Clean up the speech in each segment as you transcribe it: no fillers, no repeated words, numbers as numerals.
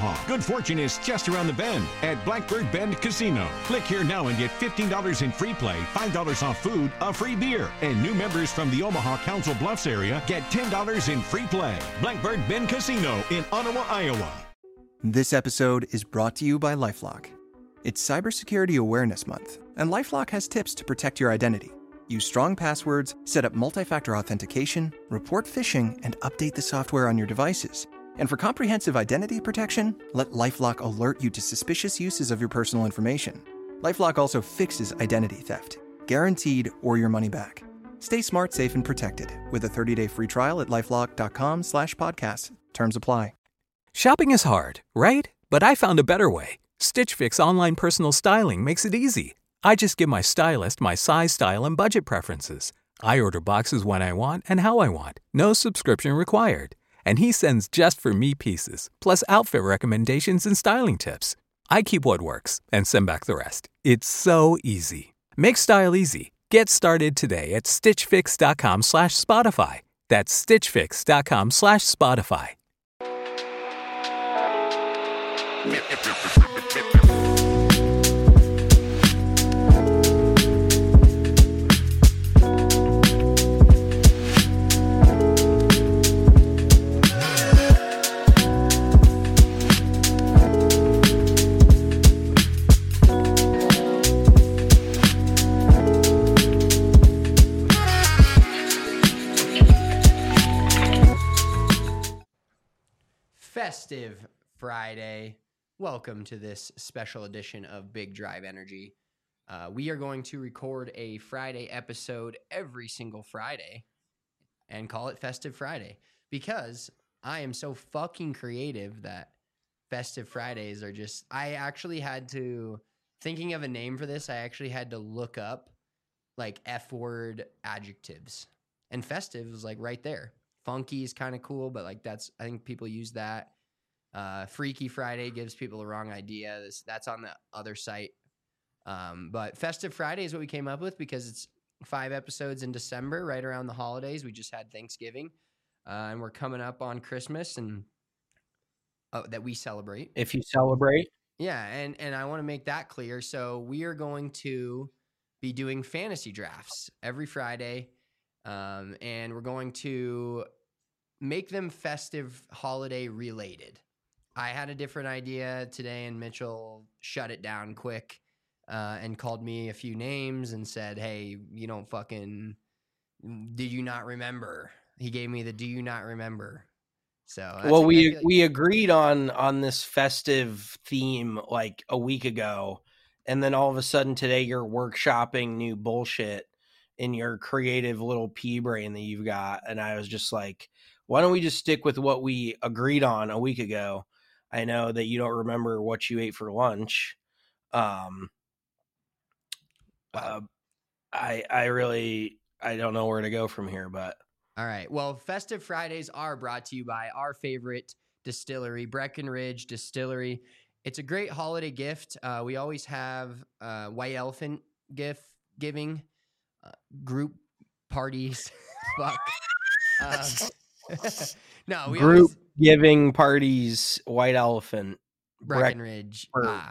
Omaha. Good fortune is just around the bend at Blackbird Bend Casino. Click here now and get $15 in free play, $5 off food, a free beer. And new members from the Omaha Council Bluffs area get $10 in free play. Blackbird Bend Casino in Ottawa, Iowa. This episode is brought to you by LifeLock. It's Cybersecurity Awareness Month, and LifeLock has tips to protect your identity. Use strong passwords, set up multi-factor authentication, report phishing, and update the software on your devices. And for comprehensive identity protection, let LifeLock alert you to suspicious uses of your personal information. LifeLock also fixes identity theft, guaranteed or your money back. Stay smart, safe, and protected with a 30-day free trial at LifeLock.com/podcast. Terms apply. Shopping is hard, right? But I found a better way. Stitch Fix online personal styling makes it easy. I just give my stylist my size, style, and budget preferences. I order boxes when I want and how I want. No subscription required. And he sends just for me pieces, plus outfit recommendations and styling tips. I keep what works and send back the rest. It's so easy. Make style easy. Get started today at stitchfix.com/Spotify. That's stitchfix.com/Spotify. Festive Friday. Welcome to this special edition of Big Drive Energy. We are going to record a Friday episode every single Friday and call it Festive Friday because I am so fucking creative that Festive Fridays are just... I actually had to... Thinking of a name for this, I actually had to look up like F-word adjectives. And festive was like right there. Funky is kind of cool, but like that's... I think people use that. Freaky Friday gives people the wrong idea. That's on the other site. But Festive Friday is what we came up with because it's 5 episodes in December, right around the holidays. We just had Thanksgiving, and we're coming up on Christmas and that we celebrate. If you celebrate. Yeah, and I want to make that clear. So we are going to be doing fantasy drafts every Friday, and we're going to make them festive holiday related. I had a different idea today, and Mitchell shut it down quick and called me a few names and said, hey, you don't fucking... Did you not remember? He gave me the do you not remember? So well, we agreed on this festive theme like a week ago, and then all of a sudden today you're workshopping new bullshit in your creative little pea brain that you've got, and I was just like, why don't we just stick with what we agreed on a week ago? I know that you don't remember what you ate for lunch. I don't know where to go from here, but. All right. Well, Festive Fridays are brought to you by our favorite distillery, Breckenridge Distillery. It's a great holiday gift. We always have White Elephant gift giving, group parties. Fuck. No, we group giving parties, White Elephant, Breckenridge.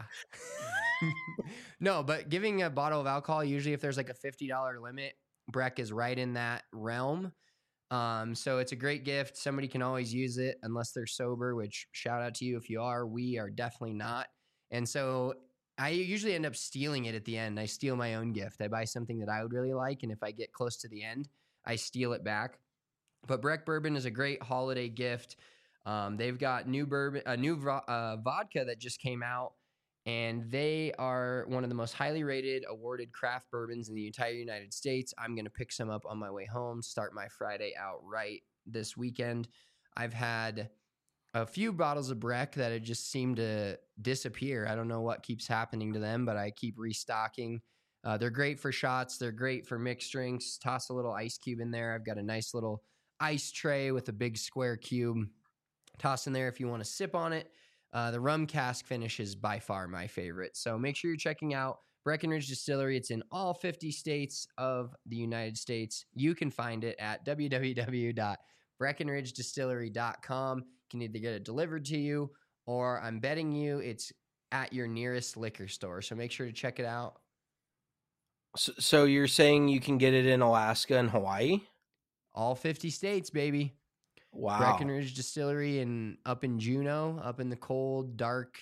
No, but giving a bottle of alcohol, usually if there's like a $50 limit, Breck is right in that realm. So it's a great gift. Somebody can always use it unless they're sober, which shout out to you if you are. We are definitely not. And so I usually end up stealing it at the end. I steal my own gift. I buy something that I would really like, and if I get close to the end, I steal it back. But Breck Bourbon is a great holiday gift. They've got new vodka that just came out, and they are one of the most highly rated, awarded craft bourbons in the entire United States. I'm going to pick some up on my way home, start my Friday out right this weekend. I've had a few bottles of Breck that have just seemed to disappear. I don't know what keeps happening to them, but I keep restocking. They're great for shots. They're great for mixed drinks. Toss a little ice cube in there. I've got a nice little ice tray with a big square cube. Toss in there if you want to sip on it. The rum cask finish is by far my favorite. So make sure you're checking out Breckenridge Distillery. It's in all 50 states of the United States. You can find it at www.breckenridgedistillery.com. You can either get it delivered to you or I'm betting you it's at your nearest liquor store. So make sure to check it out. So you're saying you can get it in Alaska and Hawaii? All 50 states, baby. Wow. Breckenridge Distillery up in Juneau, up in the cold, dark,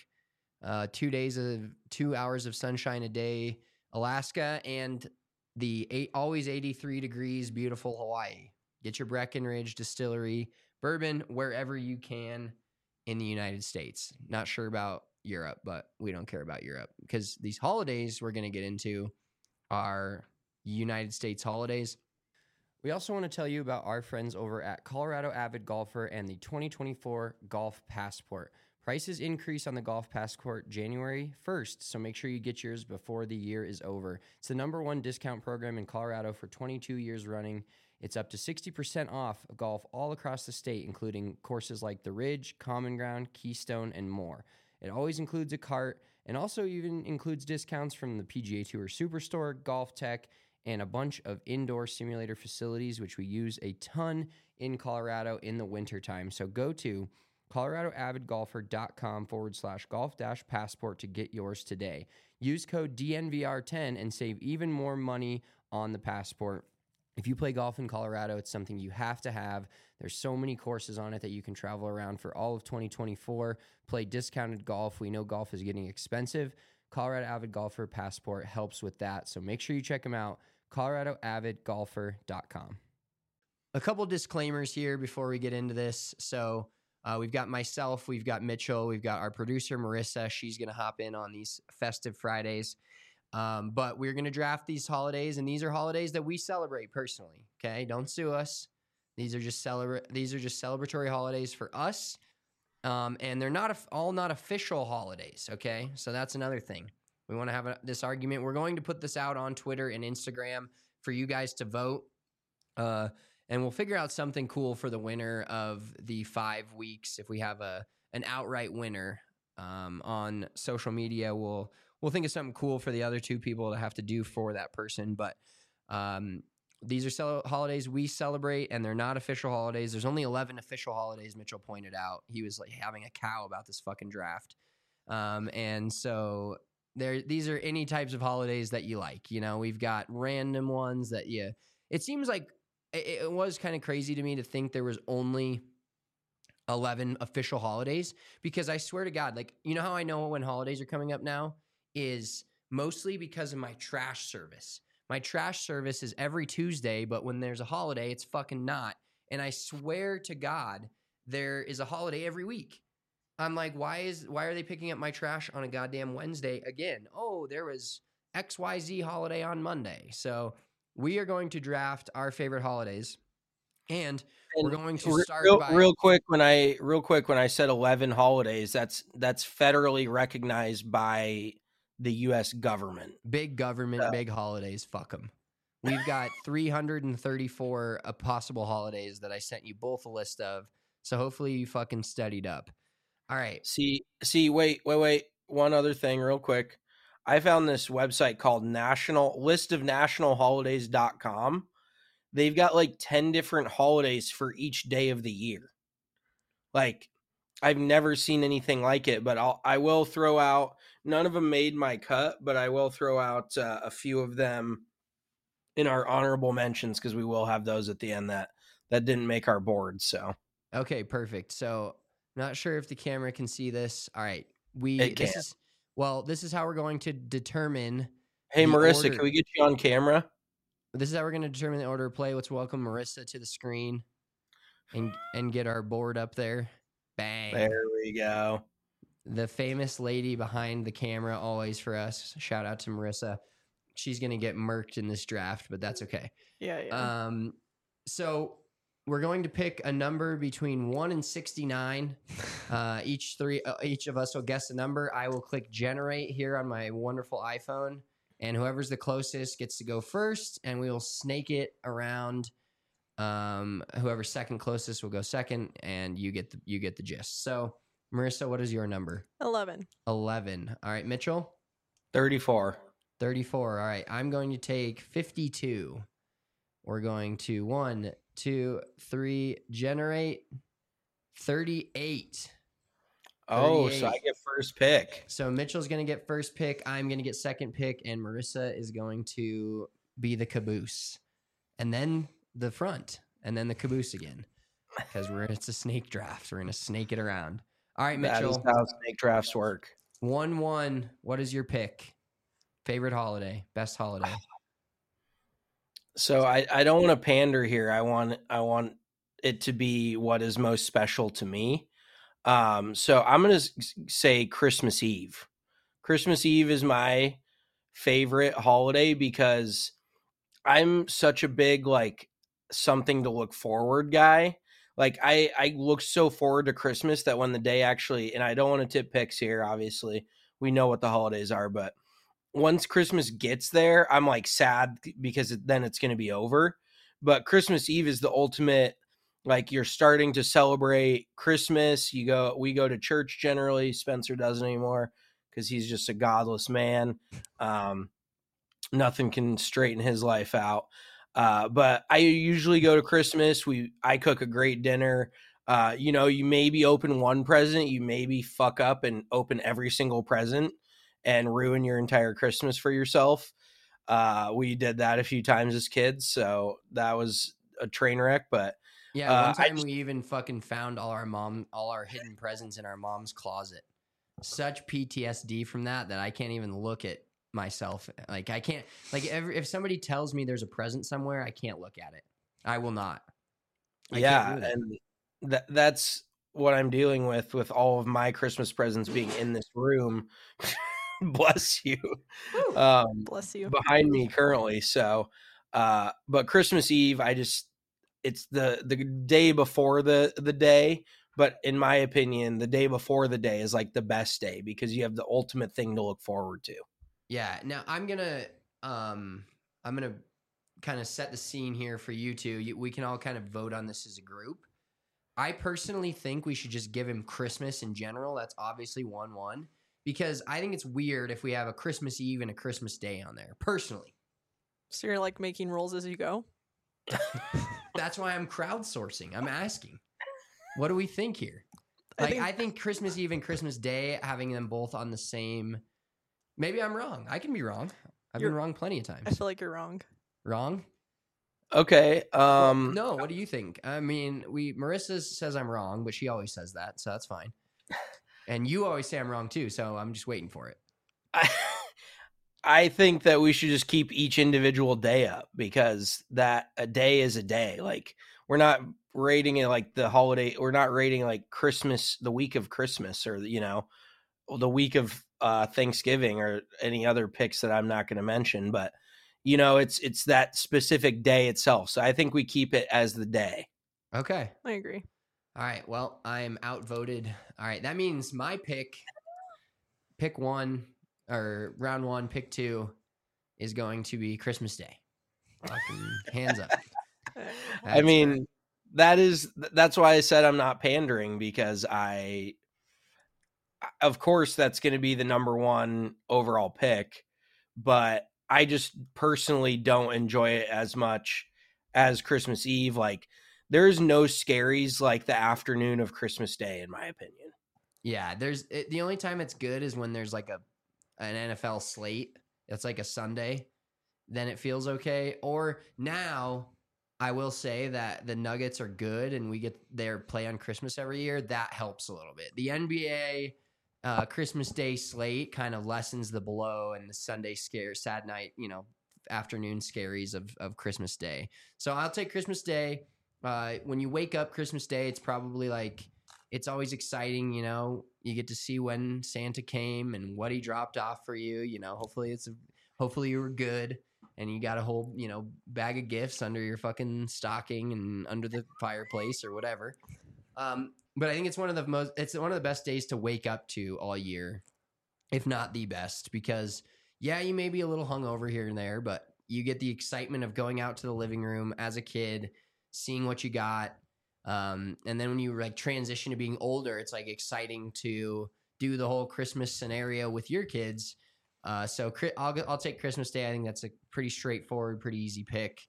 2 hours of sunshine a day, Alaska, and the always 83 degrees, beautiful Hawaii. Get your Breckenridge Distillery bourbon wherever you can in the United States. Not sure about Europe, but we don't care about Europe because these holidays we're going to get into are United States holidays. We also want to tell you about our friends over at Colorado Avid Golfer and the 2024 Golf Passport. Prices increase on the Golf Passport January 1st, so make sure you get yours before the year is over. It's the #1 discount program in Colorado for 22 years running. It's up to 60% off golf all across the state, including courses like The Ridge, Common Ground, Keystone, and more. It always includes a cart and also even includes discounts from the PGA Tour Superstore, Golf Tech, and a bunch of indoor simulator facilities, which we use a ton in Colorado in the wintertime. So go to coloradoavidgolfer.com/golf-passport to get yours today. Use code DNVR10 and save even more money on the passport. If you play golf in Colorado, it's something you have to have. There's so many courses on it that you can travel around for all of 2024. Play discounted golf. We know golf is getting expensive. Colorado Avid Golfer Passport helps with that. So make sure you check them out, coloradoavidgolfer.com. A couple disclaimers here before we get into this. So we've got myself, we've got Mitchell, we've got our producer, Marissa. She's going to hop in on these festive Fridays. But we're going to draft these holidays, and these are holidays that we celebrate personally. Okay. Don't sue us. These are just celebratory holidays for us. And they're not all not official holidays. Okay. So that's another thing. We want to have this argument. We're going to put this out on Twitter and Instagram for you guys to vote. And we'll figure out something cool for the winner of the 5 weeks. If we have an outright winner, on social media, we'll think of something cool for the other 2 people to have to do for that person. But these are holidays we celebrate, and they're not official holidays. There's only 11 official holidays, Mitchell pointed out. He was like having a cow about this fucking draft. And so these are any types of holidays that you like. You know, we've got random ones that it seems like it was kind of crazy to me to think there was only 11 official holidays, because I swear to God, like, you know how I know when holidays are coming up now is mostly because of my trash service. My trash service is every Tuesday, but when there's a holiday, it's fucking not. And I swear to God, there is a holiday every week. I'm like, why are they picking up my trash on a goddamn Wednesday again? Oh, there was XYZ holiday on Monday. So we are going to draft our favorite holidays, and we're going to start real quick. When I said 11 holidays, that's federally recognized by the U.S. government. Big government, big holidays. Fuck them. We've got 334 possible holidays that I sent you both a list of. So hopefully you fucking studied up. All right. See. Wait. One other thing, real quick. I found this website called listofnationalholidays.com. They've got like 10 different holidays for each day of the year. Like, I've never seen anything like it, but I will throw out, none of them made my cut, but I will throw out a few of them in our honorable mentions, because we will have those at the end that didn't make our board. So, okay, perfect. So, not sure if the camera can see this. All right. This is how we're going to determine. Hey, Marissa, order. Can we get you on camera? This is how we're going to determine the order of play. Let's welcome Marissa to the screen and get our board up there. Bang. There we go. The famous lady behind the camera always for us. Shout out to Marissa. She's going to get murked in this draft, but that's okay. Yeah. So we're going to pick a number between 1 and 69. Each of us will guess a number. I will click generate here on my wonderful iPhone, and whoever's the closest gets to go first, and we will snake it around. Whoever's second closest will go second, and you get the gist. So, Marissa, what is your number? 11. 11. All right, Mitchell? 34. 34. All right, I'm going to take 52. We're going to 1, 2, 3, generate 38. Oh, so 38. I get first pick. So Mitchell's going to get first pick. I'm going to get second pick. And Marissa is going to be the caboose. And then the front. And then the caboose again. Because it's a snake draft. We're going to snake it around. All right, Mitchell. That is how snake drafts work. 1-1. What is your pick? Favorite holiday? Best holiday? So I don't want to pander here. I want it to be what is most special to me. So I'm going to say Christmas Eve. Christmas Eve is my favorite holiday because I'm such a big, like, something to look forward guy. Like I look so forward to Christmas that when the day actually, and I don't want to tip picks here, obviously we know what the holidays are, but once Christmas gets there, I'm like sad because then it's going to be over. But Christmas Eve is the ultimate, like, you're starting to celebrate Christmas. We go to church generally. Spencer doesn't anymore because he's just a godless man. Nothing can straighten his life out. But I usually go to Christmas. I cook a great dinner. You maybe open one present, you maybe fuck up and open every single present and ruin your entire Christmas for yourself. We did that a few times as kids, so that was a train wreck. But yeah, one time we even fucking found all our hidden presents in our mom's closet. Such PTSD from that I can't even look at myself. Like, I can't, like, if somebody tells me there's a present somewhere, I can't look at it. I will not. And that's what I'm dealing with all of my Christmas presents being in this room. Bless you. Bless you. Behind me currently. So, but Christmas Eve, it's the day before the day. But in my opinion, the day before the day is like the best day because you have the ultimate thing to look forward to. Yeah. Now I'm gonna kind of set the scene here for you two. We can all kind of vote on this as a group. I personally think we should just give him Christmas in general. That's obviously 1-1 because I think it's weird if we have a Christmas Eve and a Christmas Day on there. Personally. So you're like making rules as you go? That's why I'm crowdsourcing. I'm asking. What do we think here? I think Christmas Eve and Christmas Day, having them both on the same. Maybe I'm wrong. I can be wrong. I've been wrong plenty of times. I feel like you're wrong. Wrong? Okay. No, what do you think? I mean, Marissa says I'm wrong, but she always says that, so that's fine. And you always say I'm wrong too, so I'm just waiting for it. I think that we should just keep each individual day up because that a day is a day. Like, we're not rating it like the holiday. We're not rating like Christmas, the week of Christmas, or the week of Thanksgiving, or any other picks that I'm not going to mention. But it's that specific day itself. So I think we keep it as the day. Okay, I agree. All right. Well, I'm outvoted. All right, that means my pick one. Or round 1, pick 2 is going to be Christmas Day. Fucking hands up. I mean, that's why I said I'm not pandering, because of course that's going to be the number 1 overall pick, but I just personally don't enjoy it as much as Christmas Eve. Like, there's no scaries like the afternoon of Christmas Day, in my opinion. Yeah, the only time it's good is when there's like an NFL slate. It's like a Sunday. Then it feels okay. Or now, I will say that the Nuggets are good and we get their play on Christmas every year. That helps a little bit. The NBA Christmas Day slate kind of lessens the blow and the Sunday sad night, afternoon scaries of Christmas Day. So I'll take Christmas Day. When you wake up Christmas Day, it's probably like, it's always exciting, you get to see when Santa came and what he dropped off for you. Hopefully you were good and you got a whole, bag of gifts under your fucking stocking and under the fireplace or whatever. But I think it's one of the best days to wake up to all year, if not the best, because you may be a little hungover here and there, but you get the excitement of going out to the living room as a kid, seeing what you got. And then when you like transition to being older, it's like exciting to do the whole Christmas scenario with your kids. So I'll take Christmas Day. I think that's a pretty straightforward, pretty easy pick.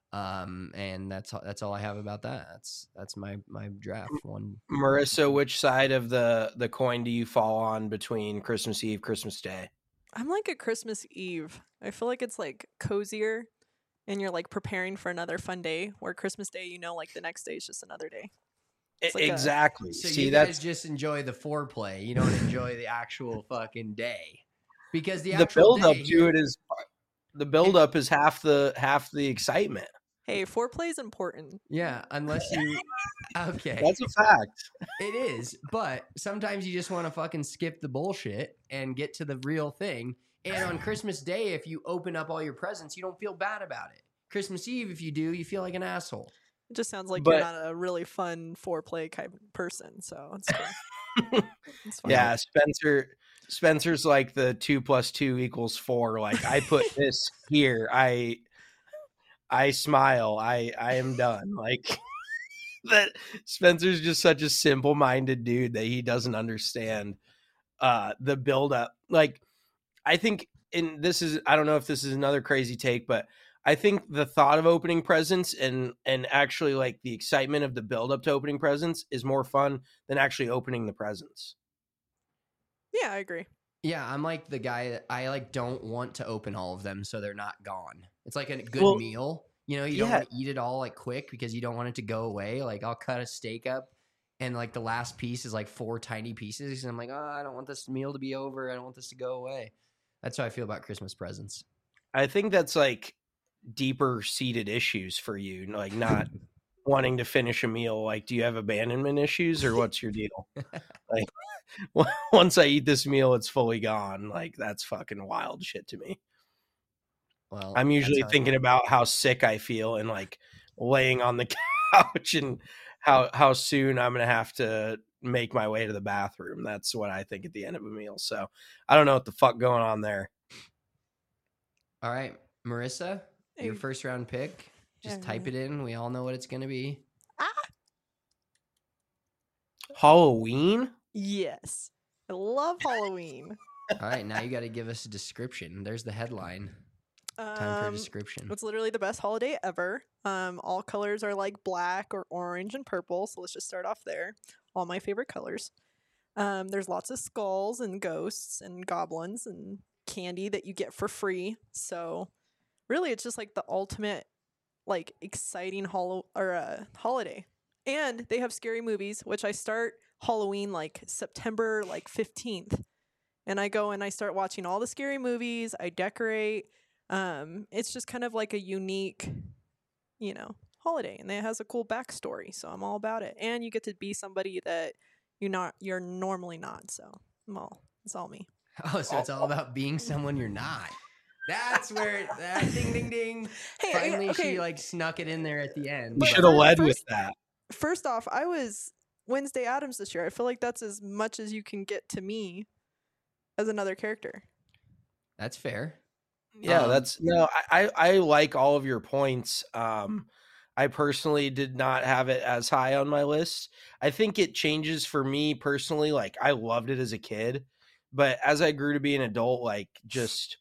And that's all I have about that. That's my draft one. Marissa, which side of the coin do you fall on between Christmas Eve, Christmas Day? I'm like a Christmas Eve. I feel like it's like cozier and you're like preparing for another fun day, where Christmas Day, like the next day is just another day. Like exactly. So See, you guys just enjoy the foreplay. You don't enjoy the actual fucking day, because the build up to it is the build up is half the excitement. Hey, foreplay is important. Yeah, unless you. Okay, that's a fact. It is, but sometimes you just want to fucking skip the bullshit and get to the real thing. And on Christmas Day, if you open up all your presents, you don't feel bad about it. Christmas Eve, if you do, you feel like an asshole. It just sounds like you're not a really fun foreplay kind of person, so it's cool. It's fine. Yeah, Spencer's like the 2 + 2 = 4. Like, I put this here. I smile. I am done. Like, that Spencer's just such a simple-minded dude that he doesn't understand the build-up. Like, I think, I don't know if this is another crazy take, but I think the thought of opening presents and actually like the excitement of the build-up to opening presents is more fun than actually opening the presents. Yeah, I agree. Yeah, I'm like the guy that I like don't want to open all of them so they're not gone. It's like a good meal. You don't want to eat it all like quick because you don't want it to go away. Like, I'll cut a steak up and like the last piece is like 4 tiny pieces. And I'm like, I don't want this meal to be over. I don't want this to go away. That's how I feel about Christmas presents. I think that's like deeper seated issues for you, like not wanting to finish a meal. Like, do you have abandonment issues or what's your deal? Like, once I eat this meal, it's fully gone. Like, that's fucking wild shit to me. Well, I'm usually thinking about how sick I feel and like laying on the couch and how soon I'm going to have to make my way to the bathroom. That's what I think at the end of a meal. So I don't know what the fuck going on there. All right, Marissa, your first round pick. Just type it in. We all know what it's going to be. Halloween? Yes. I love Halloween. All right, now you got to give us a description. There's the headline. Time for a description. It's literally the best holiday ever. All colors are like black or orange and purple. So let's just start off there. All my favorite colors. There's lots of skulls and ghosts and goblins and candy that you get for free. So really, it's just like the ultimate, like, exciting holiday. And they have scary movies, which I start Halloween like September 15th, and I go and I start watching all the scary movies. I decorate. It's just kind of like a unique, holiday, and it has a cool backstory. So I'm all about it. And you get to be somebody that you're normally not. So it's all me. Oh, so it's all about being someone you're not. That's where ding ding ding. Hey, finally, she like snuck it in there at the end. You should have led with that. First off, I was Wednesday Addams this year. I feel like that's as much as you can get to me as another character. That's fair. Yeah, I like all of your points. I personally did not have it as high on my list. I think it changes for me personally. Like, I loved it as a kid, but as I grew to be an adult, like, just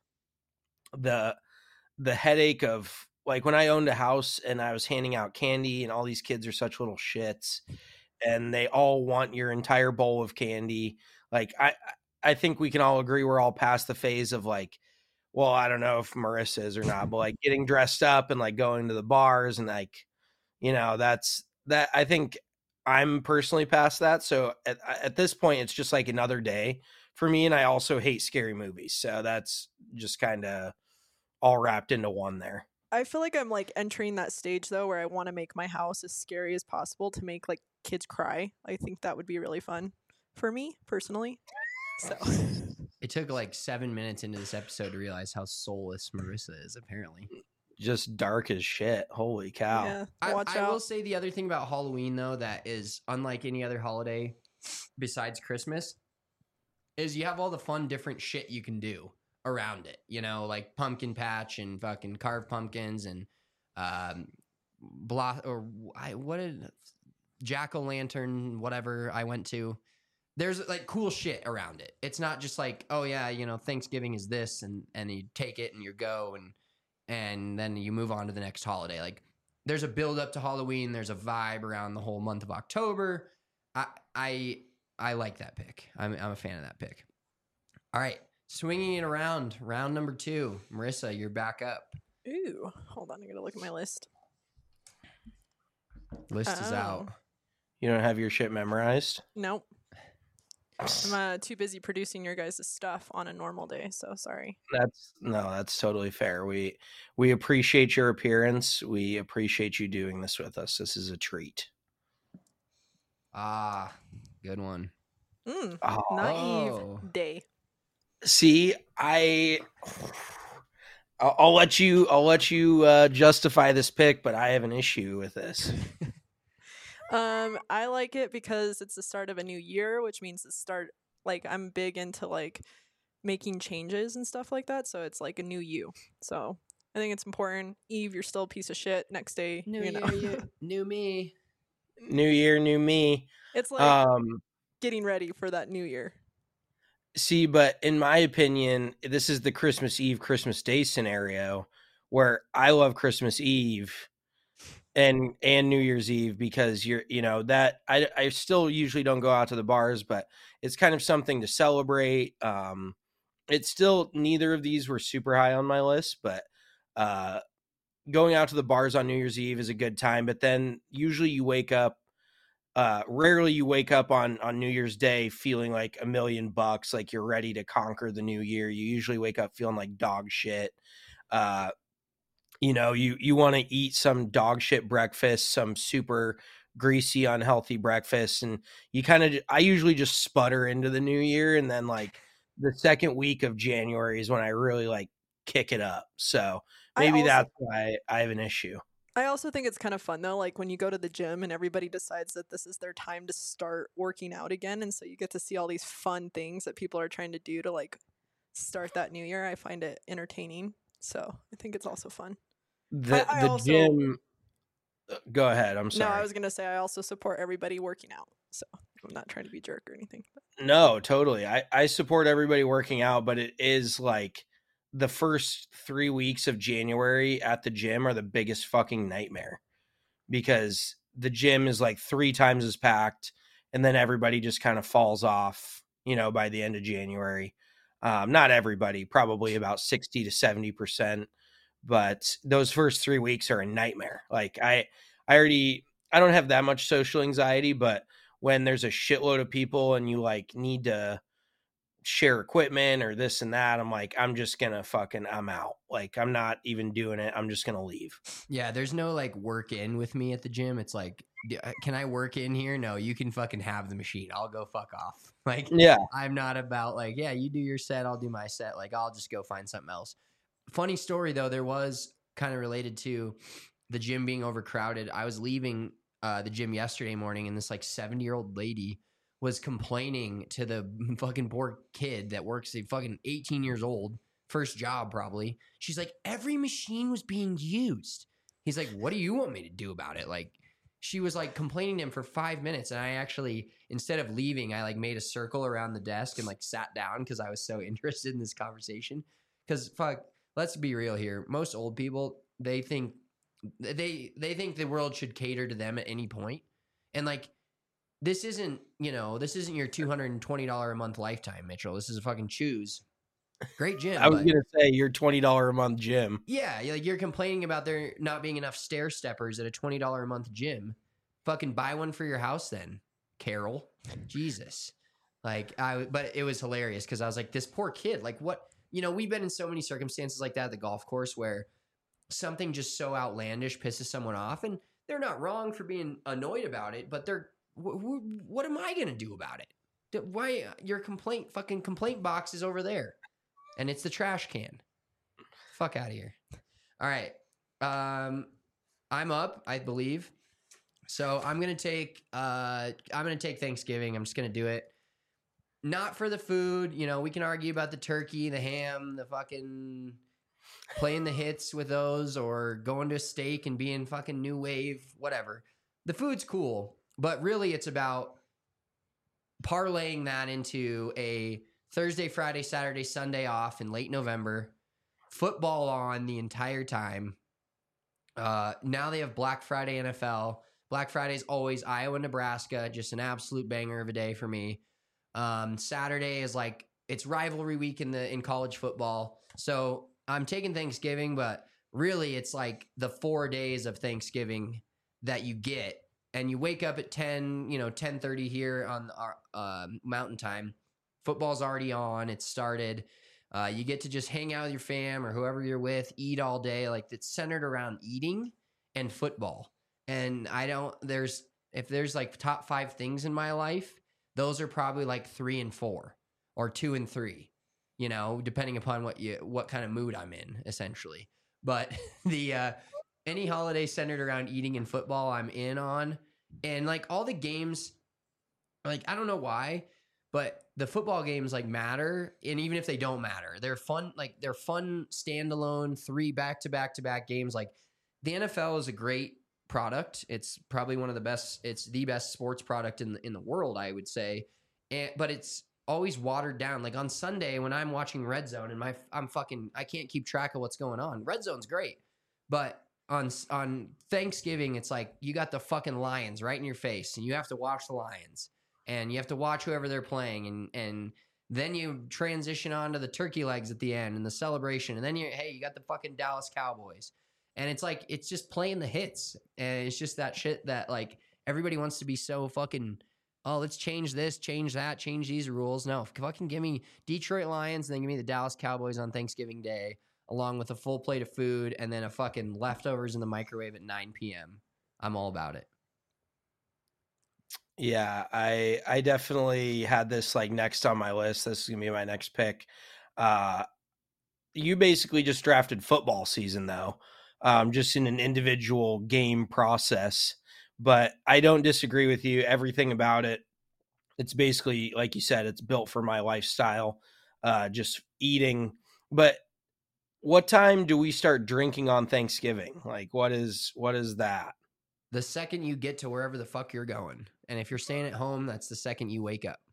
the headache of, like, when I owned a house and I was handing out candy and all these kids are such little shits and they all want your entire bowl of candy. Like, I think we can all agree we're all past the phase of, like, well, I don't know if Marissa is or not, but like getting dressed up and like going to the bars and like, that's that. I think I'm personally past that. So at this point, it's just like another day for me. And I also hate scary movies. So that's just kind of all wrapped into one there. I feel like I'm like entering that stage though, where I want to make my house as scary as possible to make like kids cry. I think that would be really fun for me personally. So it took like 7 minutes into this episode to realize how soulless Marissa is, apparently. Just dark as shit. Holy cow. Yeah, I will say the other thing about Halloween, though, that is unlike any other holiday besides Christmas, is you have all the fun, different shit you can do around it. Like pumpkin patch and fucking carved pumpkins and jack-o'-lantern, whatever I went to. There's like cool shit around it. It's not just like, oh yeah, Thanksgiving is this and you take it and you go and then you move on to the next holiday. Like there's a build up to Halloween. There's a vibe around the whole month of October. I like that pick. I'm a fan of that pick. All right, swinging it around, round number 2. Marissa, you're back up. Ooh, hold on. I gotta look at my list. List is out. You don't have your shit memorized? Nope. I'm too busy producing your guys' stuff on a normal day, so sorry. That's totally fair. We appreciate your appearance. We appreciate you doing this with us. This is a treat. Ah, good one. Naive day. See, I'll let you justify this pick, but I have an issue with this. I like it because it's the start of a new year, which means the start. Like, I'm big into like making changes and stuff like that, so it's like a new you. So I think it's important. Eve, you're still a piece of shit. Next day, New you year, know. new me. New year, new me. It's like getting ready for that new year. See, but in my opinion, this is the Christmas Eve, Christmas Day scenario where I love Christmas Eve and New Year's Eve because that I still usually don't go out to the bars, but it's kind of something to celebrate. It's still, neither of these were super high on my list, but going out to the bars on New Year's Eve is a good time. But then usually you wake up. Rarely you wake up on New Year's Day feeling like $1 million, like you're ready to conquer the new year. You usually wake up feeling like dog shit. You want to eat some dog shit breakfast, some super greasy, unhealthy breakfast. And I usually just sputter into the new year. And then like the second week of January is when I really like kick it up. So maybe that's why I have an issue. I also think it's kind of fun though, like when you go to the gym and everybody decides that this is their time to start working out again, and so you get to see all these fun things that people are trying to do to like start that new year. I find it entertaining, so I think it's also fun. The gym. Go ahead. I'm sorry. No, I was gonna say I also support everybody working out, so I'm not trying to be a jerk or anything. But. No, totally. I support everybody working out, but it is like the first 3 weeks of January at the gym are the biggest fucking nightmare because the gym is like 3 times as packed and then everybody just kind of falls off, by the end of January. Not everybody, probably about 60 to 70%, but those first 3 weeks are a nightmare. Like I don't have that much social anxiety, but when there's a shitload of people and you like need to share equipment or this and that, I'm like, I'm out. Like, I'm not even doing it. I'm just going to leave. Yeah. There's no like work in with me at the gym. It's like, can I work in here? No, you can fucking have the machine. I'll go fuck off. Like, yeah, I'm not about like, yeah, you do your set. I'll do my set. Like, I'll just go find something else. Funny story though. There was kind of related to the gym being overcrowded. I was leaving the gym yesterday morning and this like 70-year-old lady was complaining to the fucking poor kid that works at fucking 18 years old, first job probably. She's like, every machine was being used. He's like, what do you want me to do about it? Like, she was like complaining to him for 5 minutes. And I actually, instead of leaving, I like made a circle around the desk and like sat down because I was so interested in this conversation. Because fuck, let's be real here. Most old people, they think the world should cater to them at any point. And like, this isn't your $220 a month lifetime, Mitchell. This is a fucking choose. Great gym. I was going to say your $20 a month gym. Yeah. You're complaining about there not being enough stair steppers at a $20 a month gym. Fucking buy one for your house then, Carol. Jesus. But it was hilarious because I was like, this poor kid, like what, we've been in so many circumstances like that at the golf course where something just so outlandish pisses someone off and they're not wrong for being annoyed about it, but what am I going to do about it? Why your complaint box is over there and it's the trash can. Fuck out of here. All right. I'm up, I believe. So I'm going to take Thanksgiving. I'm just going to do it. Not for the food. We can argue about the turkey, the ham, the fucking playing the hits with those or going to a steak and being fucking new wave, whatever. The food's cool. But really, it's about parlaying that into a Thursday, Friday, Saturday, Sunday off in late November, football on the entire time, Now they have Black Friday NFL. Black Friday is always Iowa, Nebraska, just an absolute banger of a day for me. Saturday is like it's rivalry week in college football. So I'm taking Thanksgiving, but really it's like the 4 days of Thanksgiving that you get. And you wake up at 10:30 here on our Mountain Time. Football's already on. It's started. You get to just hang out with your fam or whoever you're with, eat all day. Like it's centered around eating and football. And if there's like top 5 things in my life, those are probably like 3 and 4 or 2 and 3, depending upon what kind of mood I'm in, essentially. But any holiday centered around eating and football, I'm in on. And like all the games, like I don't know why, but the football games like matter. And even if they don't matter, they're fun. Like they're fun standalone 3 back-to-back games. Like the NFL is a great product. It's probably one of the best. It's the best sports product in the world, I would say. But it's always watered down. Like on Sunday when I'm watching Red Zone and I can't keep track of what's going on. Red Zone's great, but on Thanksgiving, it's like you got the fucking Lions right in your face, and you have to watch the Lions, and you have to watch whoever they're playing, and then you transition on to the turkey legs at the end and the celebration, and then you got the fucking Dallas Cowboys, and it's like it's just playing the hits, and it's just that shit that like everybody wants to be so fucking. Oh, let's change this, change that, change these rules. No, fucking give me Detroit Lions, and then give me the Dallas Cowboys on Thanksgiving Day, along with a full plate of food and then a fucking leftovers in the microwave at 9 p.m. I'm all about it. Yeah, I definitely had this like next on my list. This is gonna be my next pick. You basically just drafted football season though, just in an individual game process. But I don't disagree with you. Everything about it, it's basically like you said, it's built for my lifestyle, just eating. But what time do we start drinking on Thanksgiving? Like, what is that? The second you get to wherever the fuck you're going. And if you're staying at home, that's the second you wake up.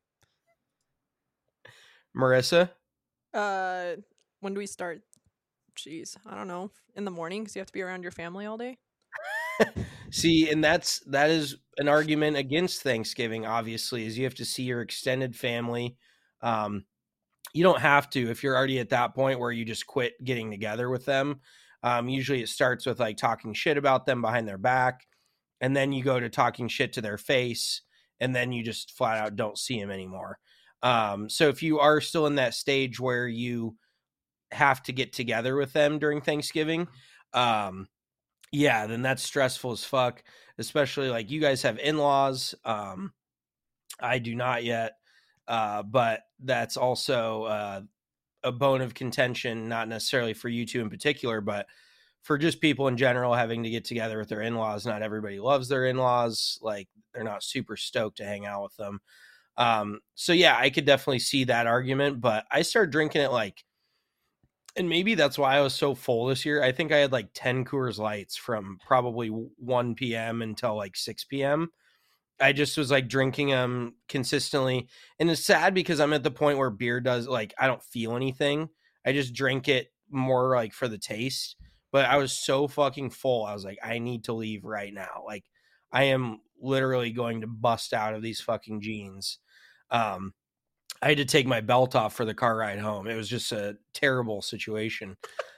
Marissa? When do we start? Jeez, I don't know. In the morning, because you have to be around your family all day. See, and that is an argument against Thanksgiving, obviously, is you have to see your extended family. You don't have to if you're already at that point where you just quit getting together with them. Usually it starts with like talking shit about them behind their back, and then you go to talking shit to their face, and then you just flat out don't see them anymore. So if you are still in that stage where you have to get together with them during Thanksgiving, yeah, then that's stressful as fuck, especially like you guys have in-laws. I do not yet. But that's also a bone of contention, not necessarily for you two in particular, but for just people in general having to get together with their in-laws. Not everybody loves their in-laws. Like they're not super stoked to hang out with them. So yeah, I could definitely see that argument, but I started drinking it like, and maybe that's why I was so full this year. I think I had like 10 Coors Lights from probably 1 p.m. until like 6 p.m. I just was like drinking them consistently. And it's sad because I'm at the point where beer does like, I don't feel anything. I just drink it more like for the taste. But I was so fucking full. I was like, I need to leave right now. Like I am literally going to bust out of these fucking jeans. I had to take my belt off for the car ride home. It was just a terrible situation.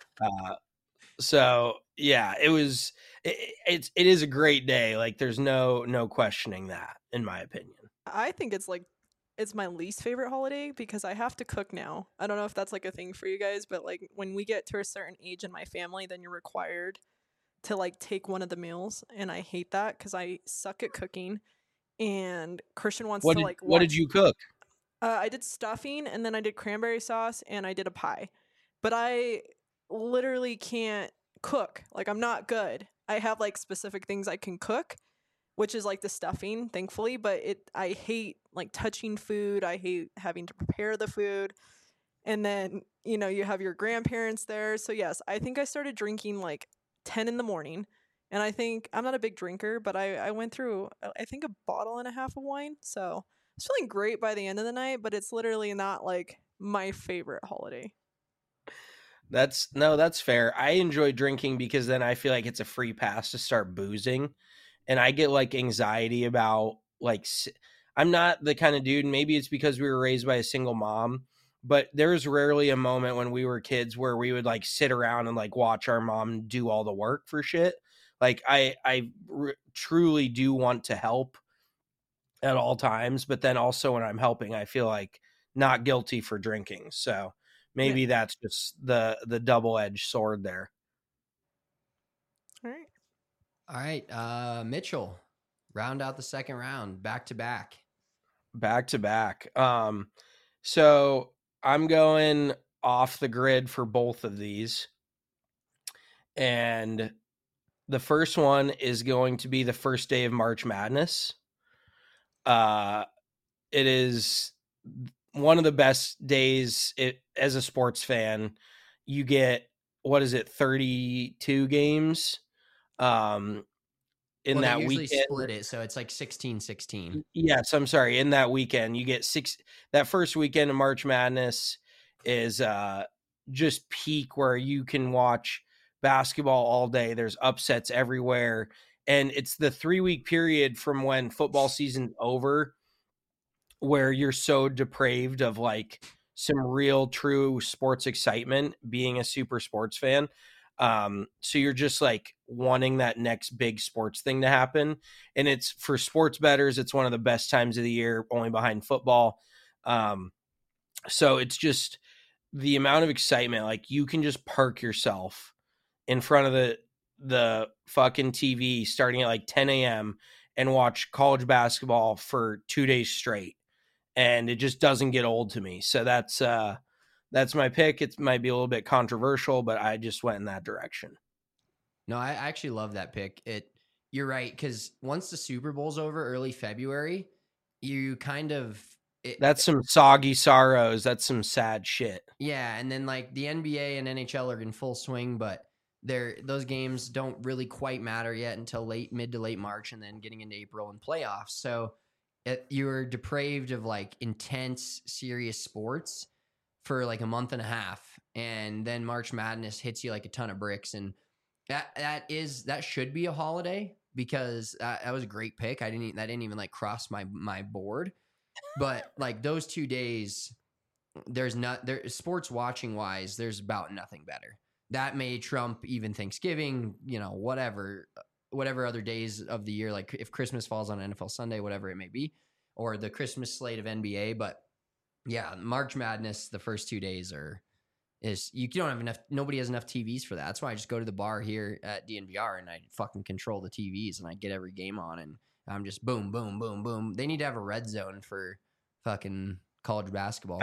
So yeah, it is a great day. Like there's no questioning that, in my opinion. I think it's my least favorite holiday because I have to cook now. I don't know if that's like a thing for you guys, but like when we get to a certain age in my family, then you're required to like take one of the meals, and I hate that because I suck at cooking. And Christian wants to like. What did you cook? I did stuffing, and then I did cranberry sauce, and I did a pie. But I literally can't cook. Like I'm not good. I have like specific things I can cook, which is like the stuffing, thankfully, but I hate like touching food. I hate having to prepare the food. And then, you have your grandparents there. So yes, I think I started drinking like 10 in the morning. And I think I'm not a big drinker, but I went through, I think, a bottle and a half of wine. So I was feeling great by the end of the night, but it's literally not like my favorite holiday. That's fair. I enjoy drinking because then I feel like it's a free pass to start boozing, and I get like anxiety about like I'm not the kind of dude. Maybe it's because we were raised by a single mom, but there's rarely a moment when we were kids where we would like sit around and like watch our mom do all the work for shit. Like I truly do want to help at all times, but then also when I'm helping, I feel like not guilty for drinking. So maybe that's just the double-edged sword there. All right. All right, Mitchell, round out the second round, back to back. Back to back. So I'm going off the grid for both of these. And the first one is going to be the first day of March Madness. It is one of the best days as a sports fan. You get, 32 games in that they usually weekend. split it, so it's like 16-16. Yes, I'm sorry. In that weekend, you get that first weekend of March Madness is just peak where you can watch basketball all day. There's upsets everywhere. And it's the 3-week period from when football season's over where you're so depraved of like some real true sports excitement being a super sports fan. So you're just like wanting that next big sports thing to happen. And it's for sports bettors, it's one of the best times of the year, only behind football. So it's just the amount of excitement, like you can just park yourself in front of the fucking TV starting at like 10 a.m. and watch college basketball for 2 days straight. And it just doesn't get old to me. So that's my pick. It might be a little bit controversial, but I just went in that direction. No, I actually love that pick. You're right, because once the Super Bowl's over, early February, you kind of... That's some soggy sorrows. That's some sad shit. Yeah, and then like the NBA and NHL are in full swing, but those games don't really quite matter yet until mid to late March, and then getting into April and playoffs. So you're depraved of like intense, serious sports for like a month and a half, and then March Madness hits you like a ton of bricks, and that should be a holiday, because that was a great pick. That didn't even like cross my board, but like those 2 days, sports watching wise, there's about nothing better. That may trump even Thanksgiving, whatever other days of the year, like if Christmas falls on NFL Sunday, whatever it may be, or the Christmas slate of NBA. But yeah, March Madness, the first 2 days you don't have enough. Nobody has enough TVs for that. That's why I just go to the bar here at DNVR and I fucking control the TVs and I get every game on, and I'm just boom, boom, boom, boom. They need to have a red zone for fucking college basketball.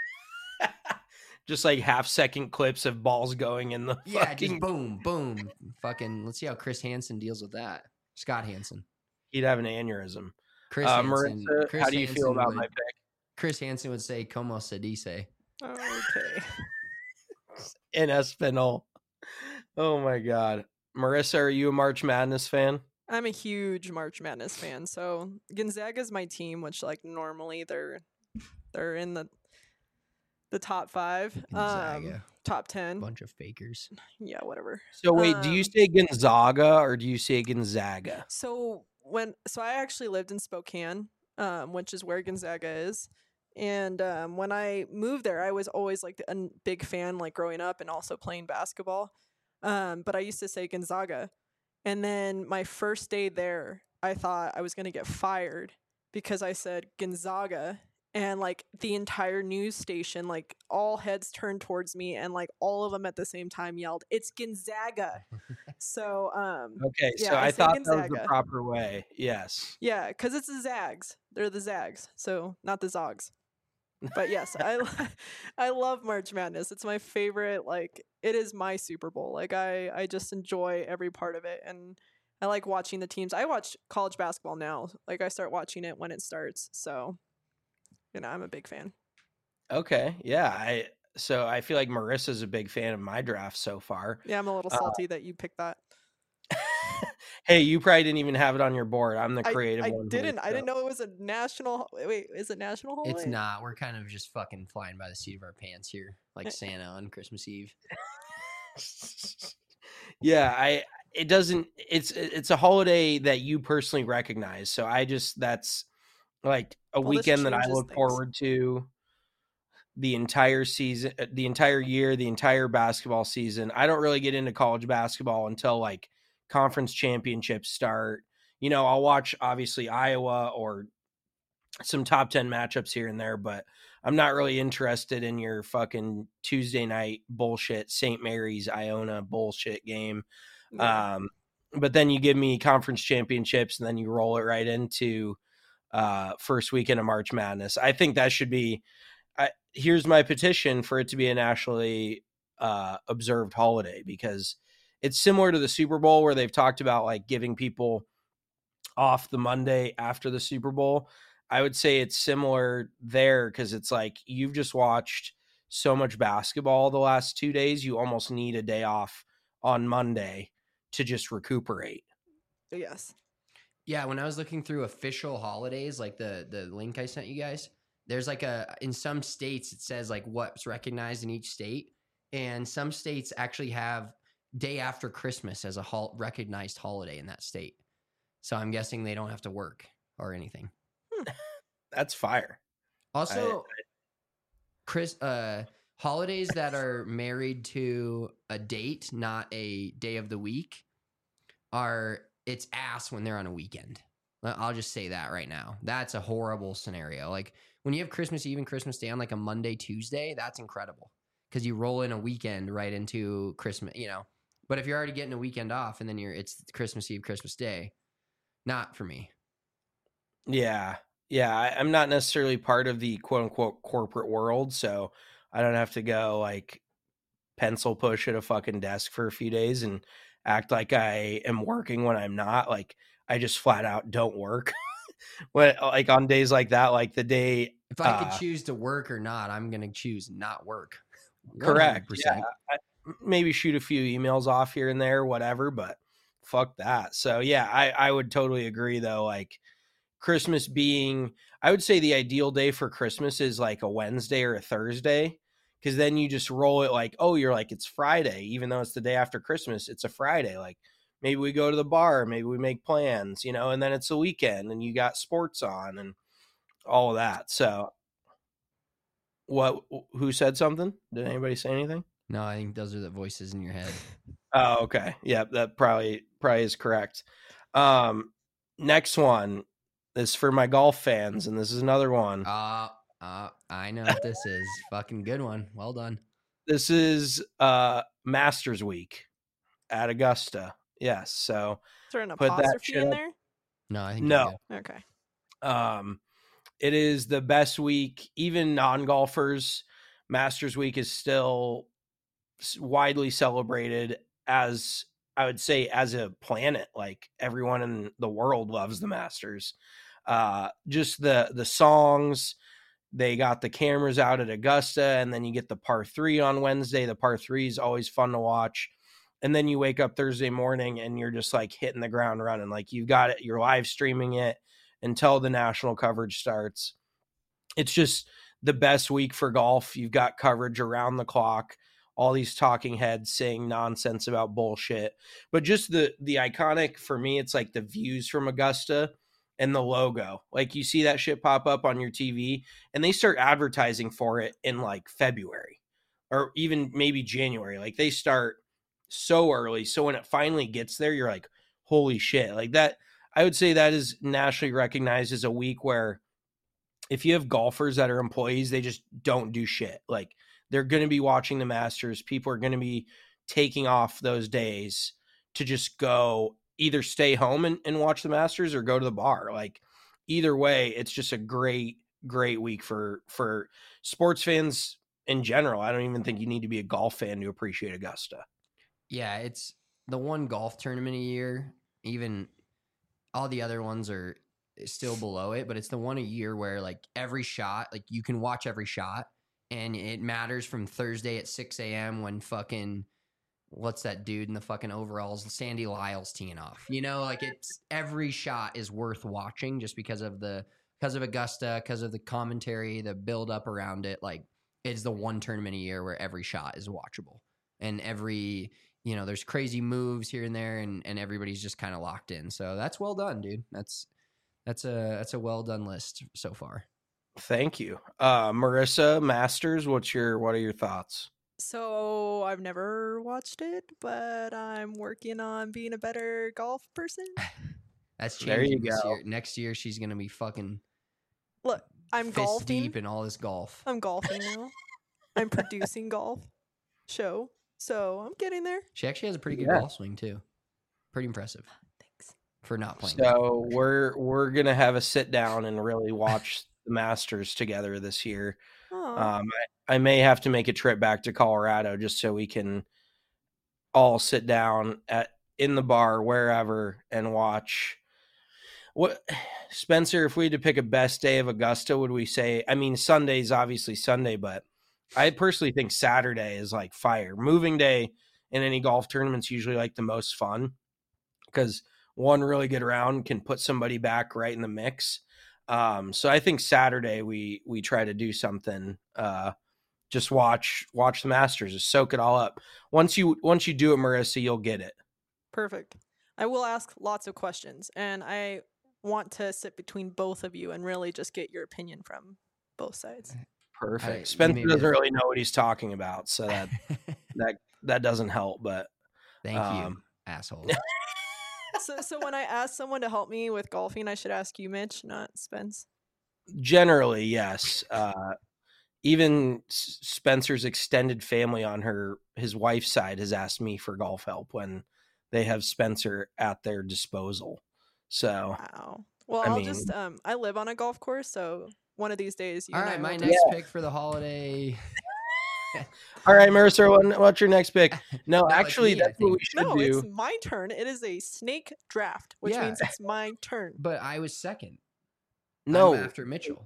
Just like half-second clips of balls going in the just boom, boom. Fucking, let's see how Chris Hansen deals with that. Scott Hansen. He'd have an aneurysm. Marissa, how do you feel about my pick? Chris Hansen would say, "Como se dice." Okay. In Espanol. Oh my God. Marissa, are you a March Madness fan? I'm a huge March Madness fan. So Gonzaga's my team, which like normally they're in the top 5, Gonzaga. top 10. Bunch of fakers. Yeah, whatever. So wait, do you say Gonzaga or do you say Gonzaga? So I actually lived in Spokane, which is where Gonzaga is. And when I moved there, I was always like a big fan, like growing up and also playing basketball. But I used to say Gonzaga. And then my first day there, I thought I was going to get fired because I said Gonzaga. And like the entire news station, like all heads turned towards me, and like all of them at the same time yelled, "It's Gonzaga!" So okay, yeah, so I thought Gonzaga. that was the proper way. Yes. Yeah, because it's the Zags. They're the Zags, so not the Zogs. But yes, I love March Madness. It's my favorite. Like it is my Super Bowl. Like I just enjoy every part of it, and I like watching the teams. I watch college basketball now. Like I start watching it when it starts. So. I'm a big fan. Okay. Yeah. I feel like Marissa's a big fan of my draft so far. Yeah, I'm a little salty that you picked that. Hey, you probably didn't even have it on your board. I'm the creative one. I didn't know it was a national. Wait, is it national holiday? It's not. We're kind of just fucking flying by the seat of our pants here, like Santa on Christmas Eve. Yeah, it's a holiday that you personally recognize. So that's like a Well, this weekend that I changes look things. forward to the entire season, the entire year, the entire basketball season. I don't really get into college basketball until like conference championships start. You know, I'll watch obviously Iowa or some top 10 matchups here and there, but I'm not really interested in your fucking Tuesday night bullshit, St. Mary's Iona bullshit game. Yeah. But then you give me conference championships and then you roll it right into first weekend of March Madness. I think that should be, here's my petition for it to be a nationally observed holiday, because it's similar to the Super Bowl where they've talked about like giving people off the Monday after the Super Bowl. I would say it's similar there, because it's like you've just watched so much basketball the last 2 days. You almost need a day off on Monday to just recuperate. Yes. Yeah, when I was looking through official holidays, like the link I sent you guys, there's like in some states it says like what's recognized in each state, and some states actually have day after Christmas as a recognized holiday in that state. So I'm guessing they don't have to work or anything. That's fire. Also, holidays that are married to a date, not a day of the week, it's ass when they're on a weekend. I'll just say that right now. That's a horrible scenario. Like when you have Christmas Eve and Christmas Day on like a Monday, Tuesday, that's incredible because you roll in a weekend right into Christmas, you know. But if you're already getting a weekend off and then it's Christmas Eve, Christmas Day, not for me. Yeah. I'm not necessarily part of the quote unquote corporate world, so I don't have to go like pencil push at a fucking desk for a few days and act like I am working when I'm not. Like I just flat out don't work. When like on days like that, like the day if I could choose to work or not, I'm gonna choose not work. 100%. Correct. Yeah, maybe shoot a few emails off here and there, whatever, but fuck that. So yeah, I would totally agree though. Like Christmas being, I would say the ideal day for Christmas is like a Wednesday or a Thursday, because then you just roll it like, oh, you're like, it's Friday, even though it's the day after Christmas, it's a Friday. Like maybe we go to the bar, maybe we make plans, you know, and then it's a weekend and you got sports on and all of that. So who said something? Did anybody say anything? No, I think those are the voices in your head. Oh, okay. Yeah, that probably is correct. Next one is for my golf fans, and this is another one. I know what this is. Fucking good one. Well done. This is Masters Week at Augusta. Yes. So is there an apostrophe in there? No, I think no. Okay. It is the best week. Even non-golfers, Masters Week is still widely celebrated as, I would say, as a planet. Like everyone in the world loves the Masters. Just the songs. They got the cameras out at Augusta, and then you get the par 3 on Wednesday. The par 3 is always fun to watch. And then you wake up Thursday morning and you're just like hitting the ground running. Like you've got it, you're live streaming it until the national coverage starts. It's just the best week for golf. You've got coverage around the clock, all these talking heads saying nonsense about bullshit. But just the iconic, for me, it's like the views from Augusta and the logo. Like you see that shit pop up on your TV and they start advertising for it in like February or even maybe January. Like they start so early. So when it finally gets there, you're like, holy shit. Like that, I would say that is nationally recognized as a week where if you have golfers that are employees, they just don't do shit. Like they're going to be watching the Masters. People are going to be taking off those days to just go either stay home and watch the Masters or go to the bar. Like either way, it's just a great week for sports fans in general. I don't even think you need to be a golf fan to appreciate Augusta. Yeah, it's the one golf tournament a year. Even all the other ones are still below it, but it's the one a year where like every shot, like you can watch every shot and it matters from Thursday at 6 a.m. when fucking, what's that dude in the fucking overalls? Sandy Lyle's teeing off. You know, like it's every shot is worth watching just because of Augusta, because of the commentary, the build up around it. Like it's the one tournament a year where every shot is watchable. and every, there's crazy moves here and there, and everybody's just kind of locked in. So that's well done, dude. That's a well done list so far. Thank you. Marissa, Masters, what are your thoughts? So I've never watched it, but I'm working on being a better golf person. That's There you changing this go. year. Next year, she's gonna be fucking Look, I'm fist golfing. deep in all this golf. I'm golfing now. I'm producing golf show, so I'm getting there. She actually has a pretty good Yeah. golf swing too. Pretty impressive Thanks. for not playing. So we're gonna have a sit down and really watch the Masters together this year. Aw. I may have to make a trip back to Colorado just so we can all sit down in the bar wherever and watch. What, Spencer, if we had to pick a best day of Augusta, would we say? I mean, Sunday's obviously Sunday, but I personally think Saturday is like fire. Moving day in any golf tournament's usually like the most fun because one really good round can put somebody back right in the mix. So I think Saturday we try to do something. Just watch the Masters, just soak it all up. Once you do it, Marissa, you'll get it. Perfect. I will ask lots of questions, and I want to sit between both of you and really just get your opinion from both sides. Perfect. you Spencer made me doesn't a- really know what he's talking about, so that doesn't help. But Thank you, asshole. So when I ask someone to help me with golfing, I should ask you, Mitch, not Spence. generally, yes. Even Spencer's extended family on his wife's side has asked me for golf help when they have Spencer at their disposal. So Wow. Well, I I'll mean- just I live on a golf course, so one of these days you All and I right, will my just- next pick for the holiday. all right, Marissa, what's your next pick? No, it's actually, me, I that's what we think. should No, do. it's my turn. It is a snake draft, which Yeah. means it's my turn. But I was second. No, I'm after Mitchell.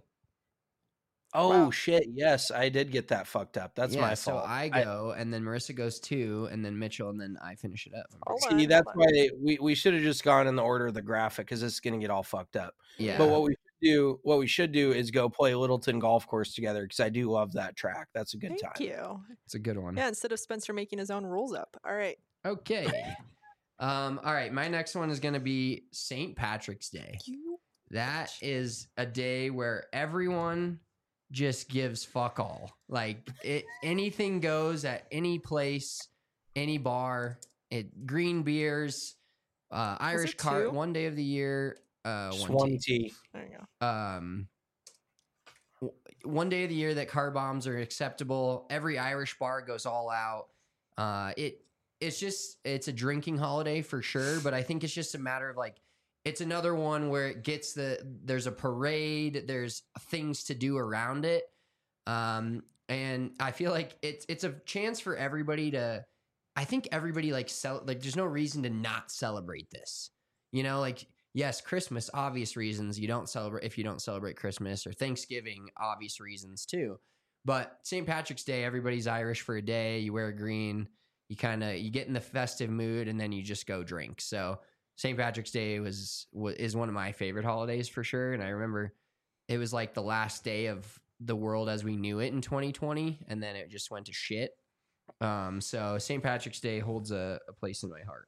oh Wow. shit, yes, I did get that fucked up. That's my so fault. I go, and then Marissa goes 2, and then Mitchell, and then I finish it up. Hold See, on, that's hold on. why we should have just gone in the order of the graphic because it's gonna get all fucked up. Yeah. But what we should do is go play Littleton Golf Course together because I do love that track. That's a good Thank time. you. It's a good one. Yeah, instead of Spencer making his own rules up. All right. Okay. All right. My next one is going to be St. Patrick's Day. You That is a day where everyone just gives fuck all. Like anything goes at any place, any bar. Green beers, Irish it cart. 2? One day of the year. Just one one tea. tea. there you go. One day of the year that car bombs are acceptable. Every Irish bar goes all out. It's a drinking holiday for sure, but I think it's just a matter of like, it's another one where it gets there's a parade, there's things to do around it. And I feel like it's a chance for everybody to, I think everybody like there's no reason to not celebrate this, like, yes, Christmas, obvious reasons you don't celebrate Christmas, or Thanksgiving, obvious reasons too. But St. Patrick's Day, everybody's Irish for a day. You wear green, you get in the festive mood, and then you just go drink. So St. Patrick's Day is one of my favorite holidays for sure. And I remember it was like the last day of the world as we knew it in 2020, and then it just went to shit. So St. Patrick's Day holds a place in my heart.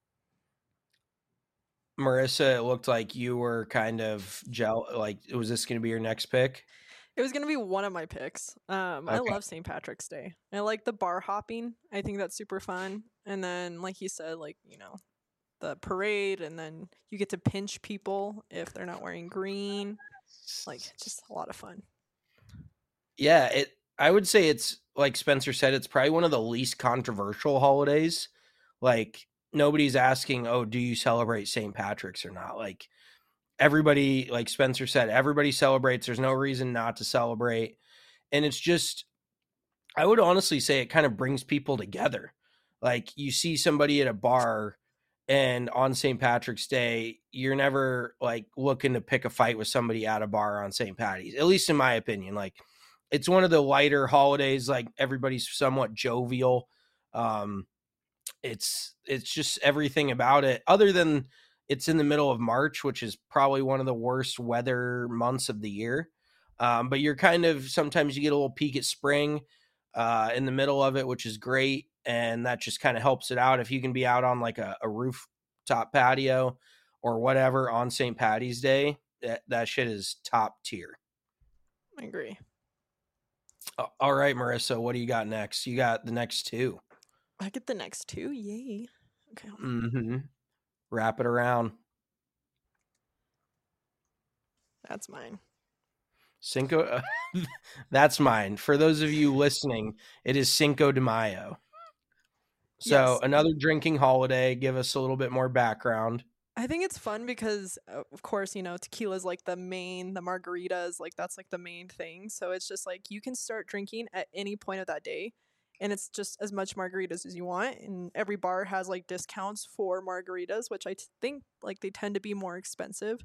Marissa, it looked like you were kind of like, was this going to be your next pick? It was going to be one of my picks. I Okay. love St. Patrick's Day. I like the bar hopping. I think that's super fun. And then, like he said, like, the parade, and then you get to pinch people if they're not wearing green. Like, just a lot of fun. Yeah, I would say it's like Spencer said, it's probably one of the least controversial holidays. Like, nobody's asking, oh, do you celebrate St. Patrick's or not? Like, everybody, like Spencer said, everybody celebrates. There's no reason not to celebrate. And it's just, I would honestly say it kind of brings people together. Like, you see somebody at a bar, and on St. Patrick's Day, you're never like looking to pick a fight with somebody at a bar on St. Patty's, at least in my opinion. Like, it's one of the lighter holidays. Like, everybody's somewhat jovial. It's just everything about it, other than it's in the middle of March, which is probably one of the worst weather months of the year. But you're sometimes you get a little peek at spring. in the middle of it, which is great. And that just kind of helps it out. If you can be out on like a rooftop patio or whatever on St. Patty's Day, that shit is top tier. I agree. All right, Marissa, what do you got next? You got the next two. I get the next two. Yay. Okay. Mm-hmm. Wrap it around. That's mine. Cinco. That's mine. For those of you listening, it is Cinco de Mayo. So Yes. another drinking holiday. Give us a little bit more background. I think it's fun because, of course, tequila is like the margaritas, like that's like the main thing. So it's just like you can start drinking at any point of that day, and it's just as much margaritas as you want. And every bar has like discounts for margaritas, which I think like they tend to be more expensive.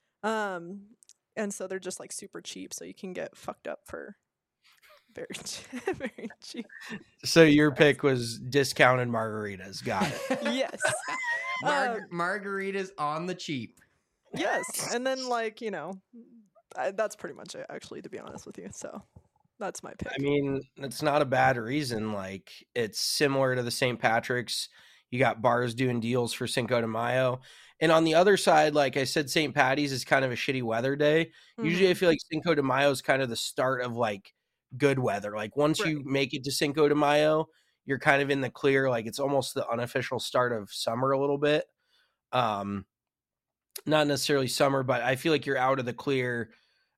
And so they're just like super cheap, so you can get fucked up for very very cheap. So your pick was discounted margaritas. Got it. Yes. Margaritas on the cheap. Yes. And then like, that's pretty much it, actually, to be honest with you. So that's my pick. I mean, it's not a bad reason. Like, it's similar to the St. Patrick's. You got bars doing deals for Cinco de Mayo. And on the other side, like I said, St. Patty's is kind of a shitty weather day. Usually I feel like Cinco de Mayo is kind of the start of like good weather. Like once you make it to Cinco de Mayo, you're kind of in the clear. Like it's almost the unofficial start of summer a little bit. Not necessarily summer, but I feel like you're out of the clear,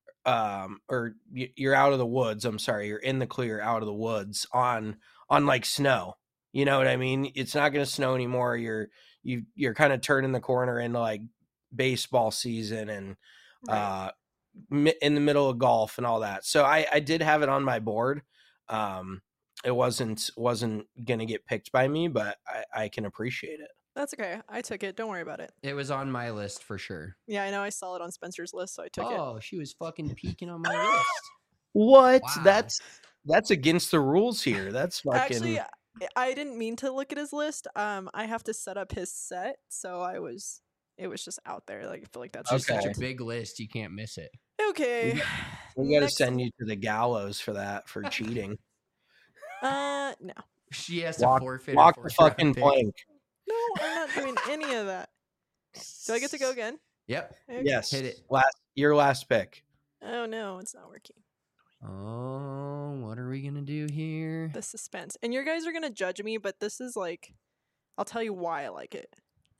or you're out of the woods. I'm sorry. You're in the clear, out of the woods on like snow. You know what I mean? It's not going to snow anymore. You're kind of turning the corner into like baseball season and, in the middle of golf and all that. So I did have it on my board. It wasn't going to get picked by me, but I can appreciate it. That's okay. I took it. Don't worry about it. It was on my list for sure. Yeah, I know. I saw it on Spencer's list, so I took it. Oh, she was fucking peeking on my list. What? Wow. That's against the rules here. That's fucking... Actually, I didn't mean to look at his list. I have to set up his set, so it was just out there. Like I feel like that's It's Okay. such a big list. You can't miss it. okay. We got to Next- send you to the gallows for that, for cheating. No, She has to Walk forfeit. the a fucking fourth-round pick. plank. no, I'm not doing any of that. Do I get to go again? Yep. Okay. Yes. Hit it. Your last pick. Oh no, it's not working. Oh, what are we gonna do here? The suspense, and you guys are gonna judge me, but this is like, I'll tell you why I like it.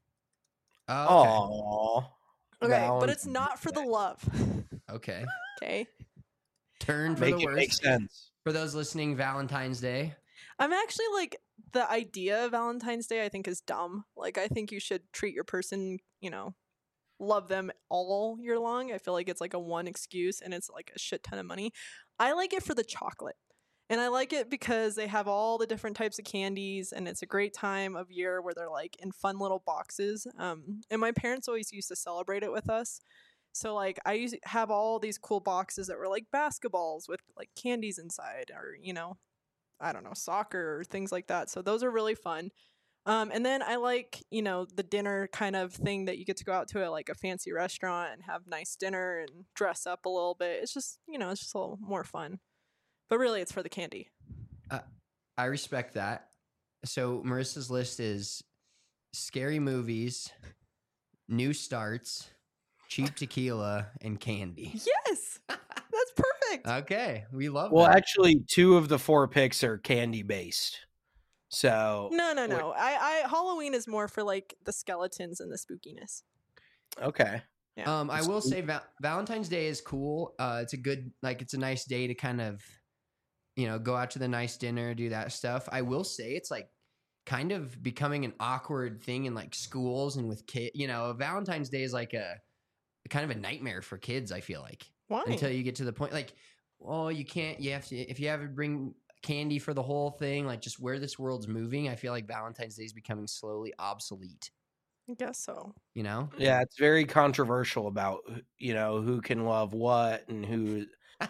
Oh, Okay. Okay, but it's not for the love. okay. Okay. Turn for Make the it make worst. sense. For those listening, Valentine's Day. I'm actually like, the idea of Valentine's Day I think is dumb. Like I think you should treat your person, love them all year long. I feel like it's like a one excuse and it's like a shit ton of money. I like it for the chocolate. And I like it because they have all the different types of candies and it's a great time of year where they're like in fun little boxes. And my parents always used to celebrate it with us. So like I used to have all these cool boxes that were like basketballs with like candies inside or, I don't know, soccer or things like that. So those are really fun. And then I like, the dinner kind of thing that you get to go out to like a fancy restaurant and have nice dinner and dress up a little bit. It's just, it's just a little more fun. But really, it's for the candy. I respect that. So Marissa's list is scary movies, new starts, cheap tequila, and candy. Yes, that's perfect. Okay, we love Well, that. actually, 2 of the 4 picks are candy based. So No. I Halloween is more for like the skeletons and the spookiness. okay. Yeah. I will say Valentine's Day is cool. It's a good, it's a nice day to kind of, go out to the nice dinner, do that stuff. I will say it's like kind of becoming an awkward thing in like schools and with kids. Valentine's Day is like a kind of a nightmare for kids. I feel like Why? until you get to the point like, oh, you can't. You have to if you have to bring candy for the whole thing. Like just where this world's moving, I feel like Valentine's Day is becoming slowly obsolete. I guess so. Yeah, it's very controversial about who can love what and who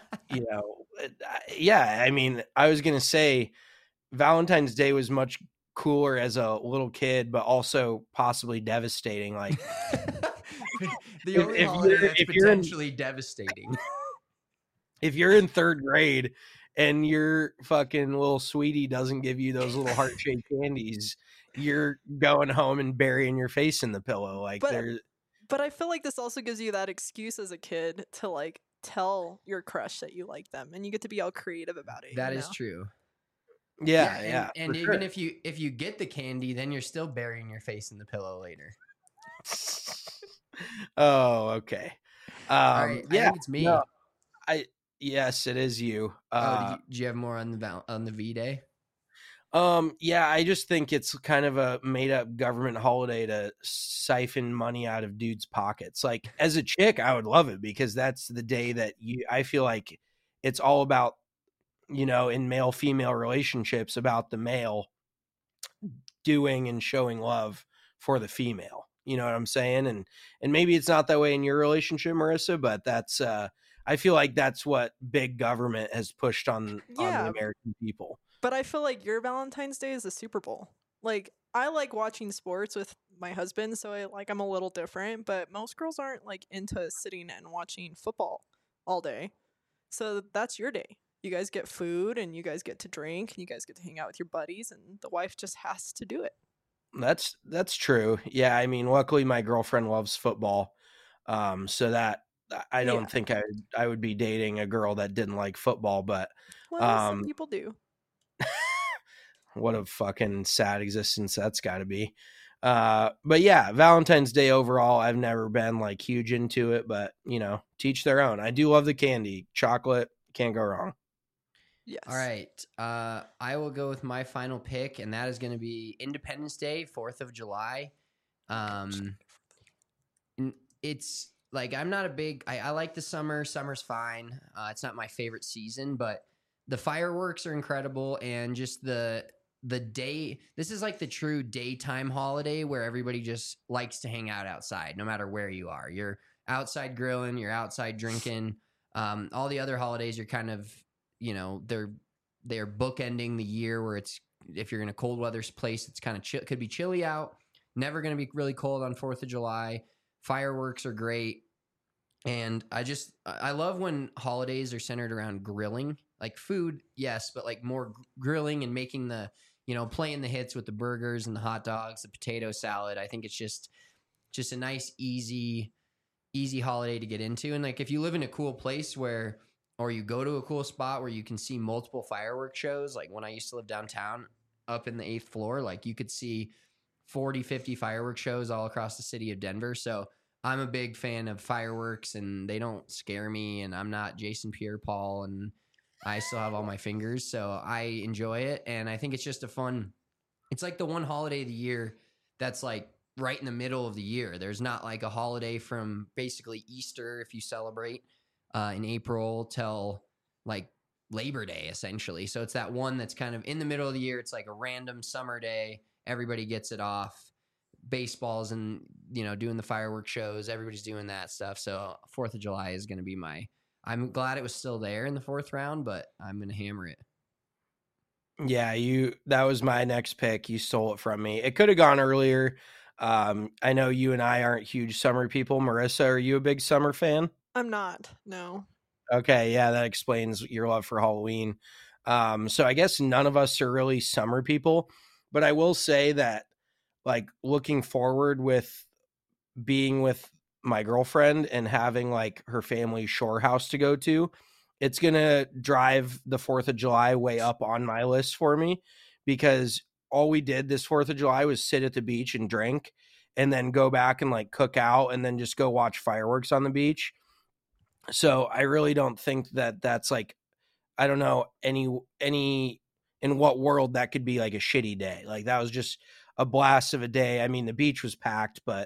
yeah, I mean, I was gonna say Valentine's Day was much cooler as a little kid, but also possibly devastating. Like the only holiday that's potentially devastating. if you're in 3rd grade and your fucking little sweetie doesn't give you those little heart-shaped candies, you're going home and burying your face in the pillow. Like But But I feel like this also gives you that excuse as a kid to like tell your crush that you like them, and you get to be all creative about it. That you is know? true. yeah, And for even sure. if you get the candy, then you're still burying your face in the pillow later. Oh, okay. All right, I Yeah, think it's me. no, yes, it is you. Did you have more on the V Day? Yeah, I just think it's kind of a made up government holiday to siphon money out of dudes' pockets. Like as a chick, I would love it because that's the day that I feel like it's all about, in male female relationships, about the male doing and showing love for the female. You know what I'm saying? And maybe it's not that way in your relationship, Marissa, but that's I feel like that's what big government has pushed on the Yeah, American people. but I feel like your Valentine's Day is the Super Bowl. Like I like watching sports with my husband, so I'm a little different. But most girls aren't like into sitting and watching football all day. So that's your day. You guys get food and you guys get to drink and you guys get to hang out with your buddies, and the wife just has to do it. That's true. Yeah, I mean, luckily my girlfriend loves football. So that I Yeah. don't think I would be dating a girl that didn't like football, but Well, some people do. what a fucking sad existence that's got to be. But yeah, Valentine's Day overall, I've never been like huge into it, but teach their own. I do love the candy, chocolate, can't go wrong. Yes. All right. I will go with my final pick, and that is going to be Independence Day, 4th of July. It's like I'm not a big. I like the summer. Summer's fine. It's not my favorite season, but the fireworks are incredible, and just the day. This is like the true daytime holiday where everybody just likes to hang out outside, no matter where you are. You're outside grilling. You're outside drinking. All the other holidays, you're kind of they're bookending the year where it's, if you're in a cold weather place, it's kind of could be chilly out. Never going to be really cold on 4th of July. Fireworks are great. And I love when holidays are centered around grilling, like food. Yes. But like more grilling and making playing the hits with the burgers and the hot dogs, the potato salad. I think it's just a nice, easy holiday to get into. And like, if you live in a cool place or you go to a cool spot where you can see multiple fireworks shows. Like when I used to live downtown up in the 8th floor, like you could see 40, 50 fireworks shows all across the city of Denver. So I'm a big fan of fireworks, and they don't scare me, and I'm not Jason Pierre-Paul, and I still have all my fingers. So I enjoy it. And I think it's just it's like the one holiday of the year that's like right in the middle of the year. There's not like a holiday from basically Easter, if you celebrate, in April till like Labor Day, essentially. So it's that one that's kind of in the middle of the year. It's like a random summer day. Everybody gets it off. Baseball's and, doing the fireworks shows. Everybody's doing that stuff. So 4th of July is going to be I'm glad it was still there in the 4th round, but I'm going to hammer it. Yeah, that was my next pick. You stole it from me. It could have gone earlier. I know you and I aren't huge summer people. Marissa, are you a big summer fan? I'm not. No. Okay, yeah, that explains your love for Halloween. So I guess none of us are really summer people, but I will say that, like, looking forward with being with my girlfriend and having like her family shore house to go to, it's going to drive the 4th of July way up on my list for me, because all we did this 4th of July was sit at the beach and drink and then go back and like cook out and then just go watch fireworks on the beach. So I really don't think that that's like, I don't know any in what world that could be like a shitty day. Like that was just a blast of a day. I mean, the beach was packed, but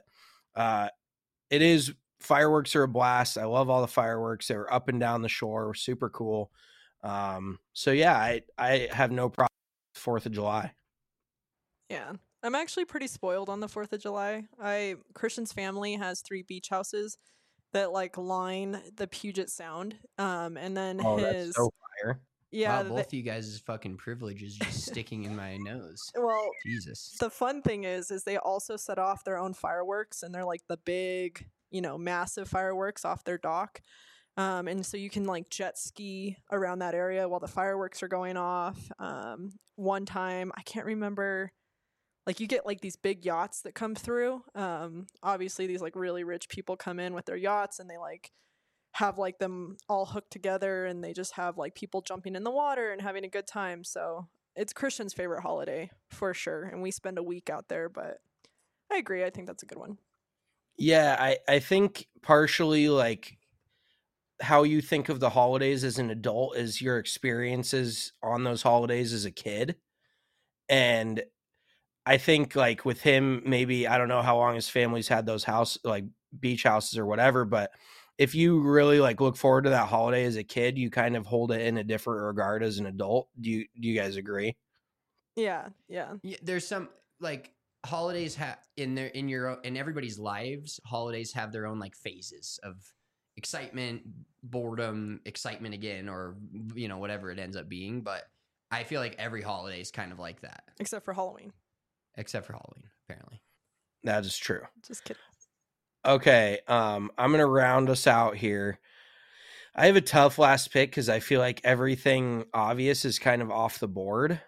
it is, fireworks are a blast. I love all the fireworks. They were up and down the shore, super cool. So yeah, I have no problem with 4th of July. Yeah. I'm actually pretty spoiled on the 4th of July. Christian's family has 3 beach houses that like line the Puget Sound. And then That's so fire. Yeah, wow, both of you guys' fucking privileges just sticking in my nose. Well, Jesus. The fun thing is they also set off their own fireworks, and they're like the big, massive fireworks off their dock. And so you can like jet ski around that area while the fireworks are going off. One time, I can't remember, like you get like these big yachts that come through. Obviously these like really rich people come in with their yachts and they like have like them all hooked together and they just have like people jumping in the water and having a good time. So it's Christian's favorite holiday for sure. And we spend a week out there, but I agree. I think that's a good one. Yeah, I think partially like how you think of the holidays as an adult is your experiences on those holidays as a kid. And I think like with him, maybe, I don't know how long his family's had those like beach houses or whatever, but if you really like look forward to that holiday as a kid, you kind of hold it in a different regard as an adult. Do you guys agree? Yeah. There's some like holidays in everybody's lives. Holidays have their own like phases of excitement, boredom, excitement again, or whatever it ends up being. But I feel like every holiday is kind of like that, except for Halloween, apparently. That is true. Just kidding. Okay, I'm gonna round us out here. I have a tough last pick because I feel like everything obvious is kind of off the board.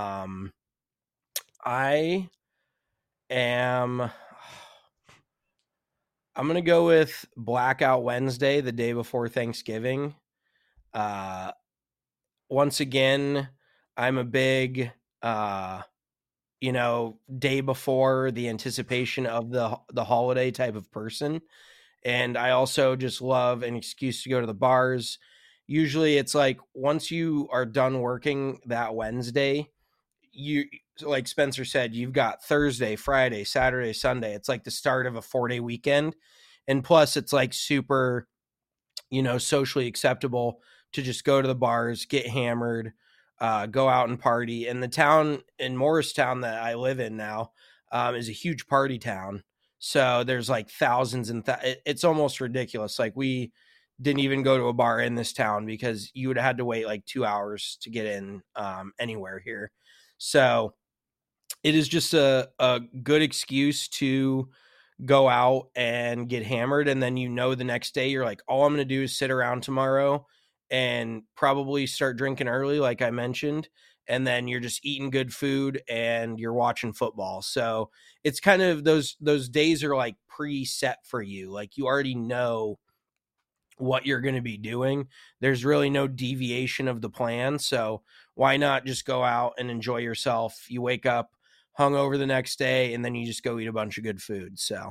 I'm going to go with Blackout Wednesday, the day before Thanksgiving. Once again, I'm a big, day before the anticipation of the holiday type of person. And I also just love an excuse to go to the bars. Usually it's like once you are done working that Wednesday, like Spencer said, you've got Thursday, Friday, Saturday, Sunday. It's like the start of a 4-day weekend. And plus it's like super, socially acceptable to just go to the bars, get hammered, go out and party. And the town in Morristown that I live in now is a huge party town. So there's like thousands and it's almost ridiculous. Like we didn't even go to a bar in this town because you would have had to wait like 2 hours to get in anywhere here. So it is just a good excuse to go out and get hammered. And then, the next day you're like, all I'm going to do is sit around tomorrow and probably start drinking early, like I mentioned. And then you're just eating good food and you're watching football. So it's kind of those days are like preset for you. Like you already know what you're going to be doing. There's really no deviation of the plan. So why not just go out and enjoy yourself? You wake up hungover the next day and then you just go eat a bunch of good food. So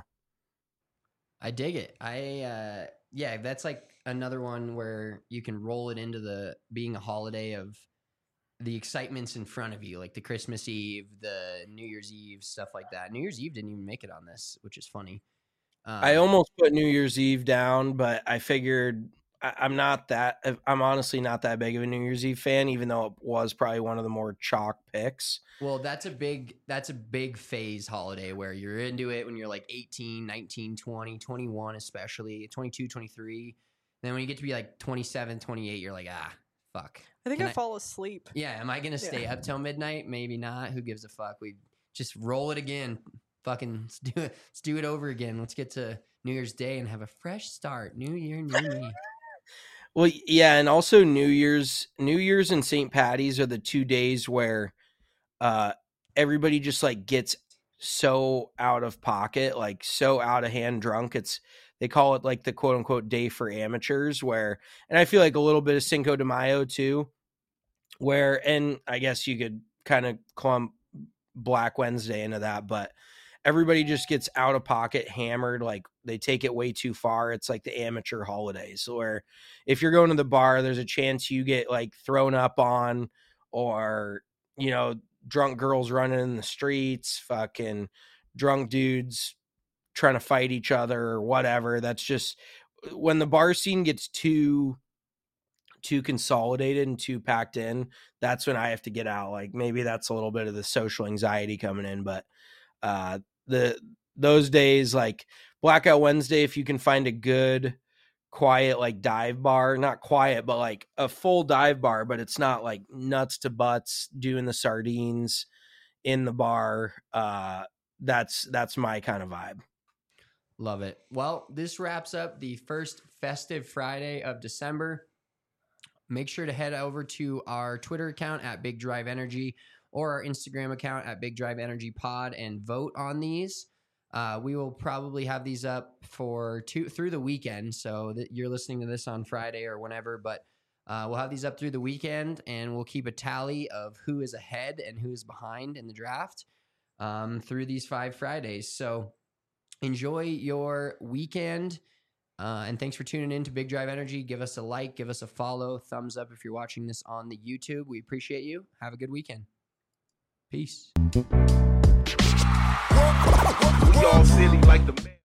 I dig it. That's like another one where you can roll it into being a holiday of the excitement's in front of you, like the Christmas Eve, the New Year's Eve, stuff like that. New Year's Eve didn't even make it on this, which is funny. I almost put New Year's Eve down, but I figured I'm honestly not that big of a New Year's Eve fan, even though it was probably one of the more chalk picks. Well, that's a big phase holiday where you're into it when you're like 18, 19, 20, 21, especially 22, 23. Then when you get to be like 27, 28, you're like, fuck. I think I fall asleep. Yeah. Am I going to stay up till midnight? Maybe not. Who gives a fuck? We just roll it again. Fucking let's do it over again. Let's get to New Year's Day and have a fresh start. New year, new me. Well, yeah, and also New Year's and St. Patty's are the 2 days where everybody just like gets so out of pocket, like so out of hand drunk. They call it like the quote unquote day for amateurs and I feel like a little bit of Cinco de Mayo too, and I guess you could kind of clump Black Wednesday into that, but everybody just gets out of pocket hammered. Like they take it way too far. It's like the amateur holidays where if you're going to the bar, there's a chance you get like thrown up on or, drunk girls running in the streets, fucking drunk dudes trying to fight each other or whatever. That's just when the bar scene gets too consolidated and too packed in. That's when I have to get out. Like maybe that's a little bit of the social anxiety coming in, but those days like Blackout Wednesday, if you can find a good quiet like dive bar, not quiet but like a full dive bar, but it's not like nuts to butts doing the sardines in the bar, that's my kind of vibe. Love it. Well, this wraps up the first festive Friday of December. Make sure to head over to our Twitter account at Big Drive Energy or our Instagram account at Big Drive Energy Pod and vote on these. We will probably have these up through the weekend, so that you're listening to this on Friday or whenever, but we'll have these up through the weekend, and we'll keep a tally of who is ahead and who is behind in the draft through these 5 Fridays. So enjoy your weekend, and thanks for tuning in to Big Drive Energy. Give us a like, give us a follow, thumbs up if you're watching this on the YouTube. We appreciate you. Have a good weekend. Peace. We all silly like the man.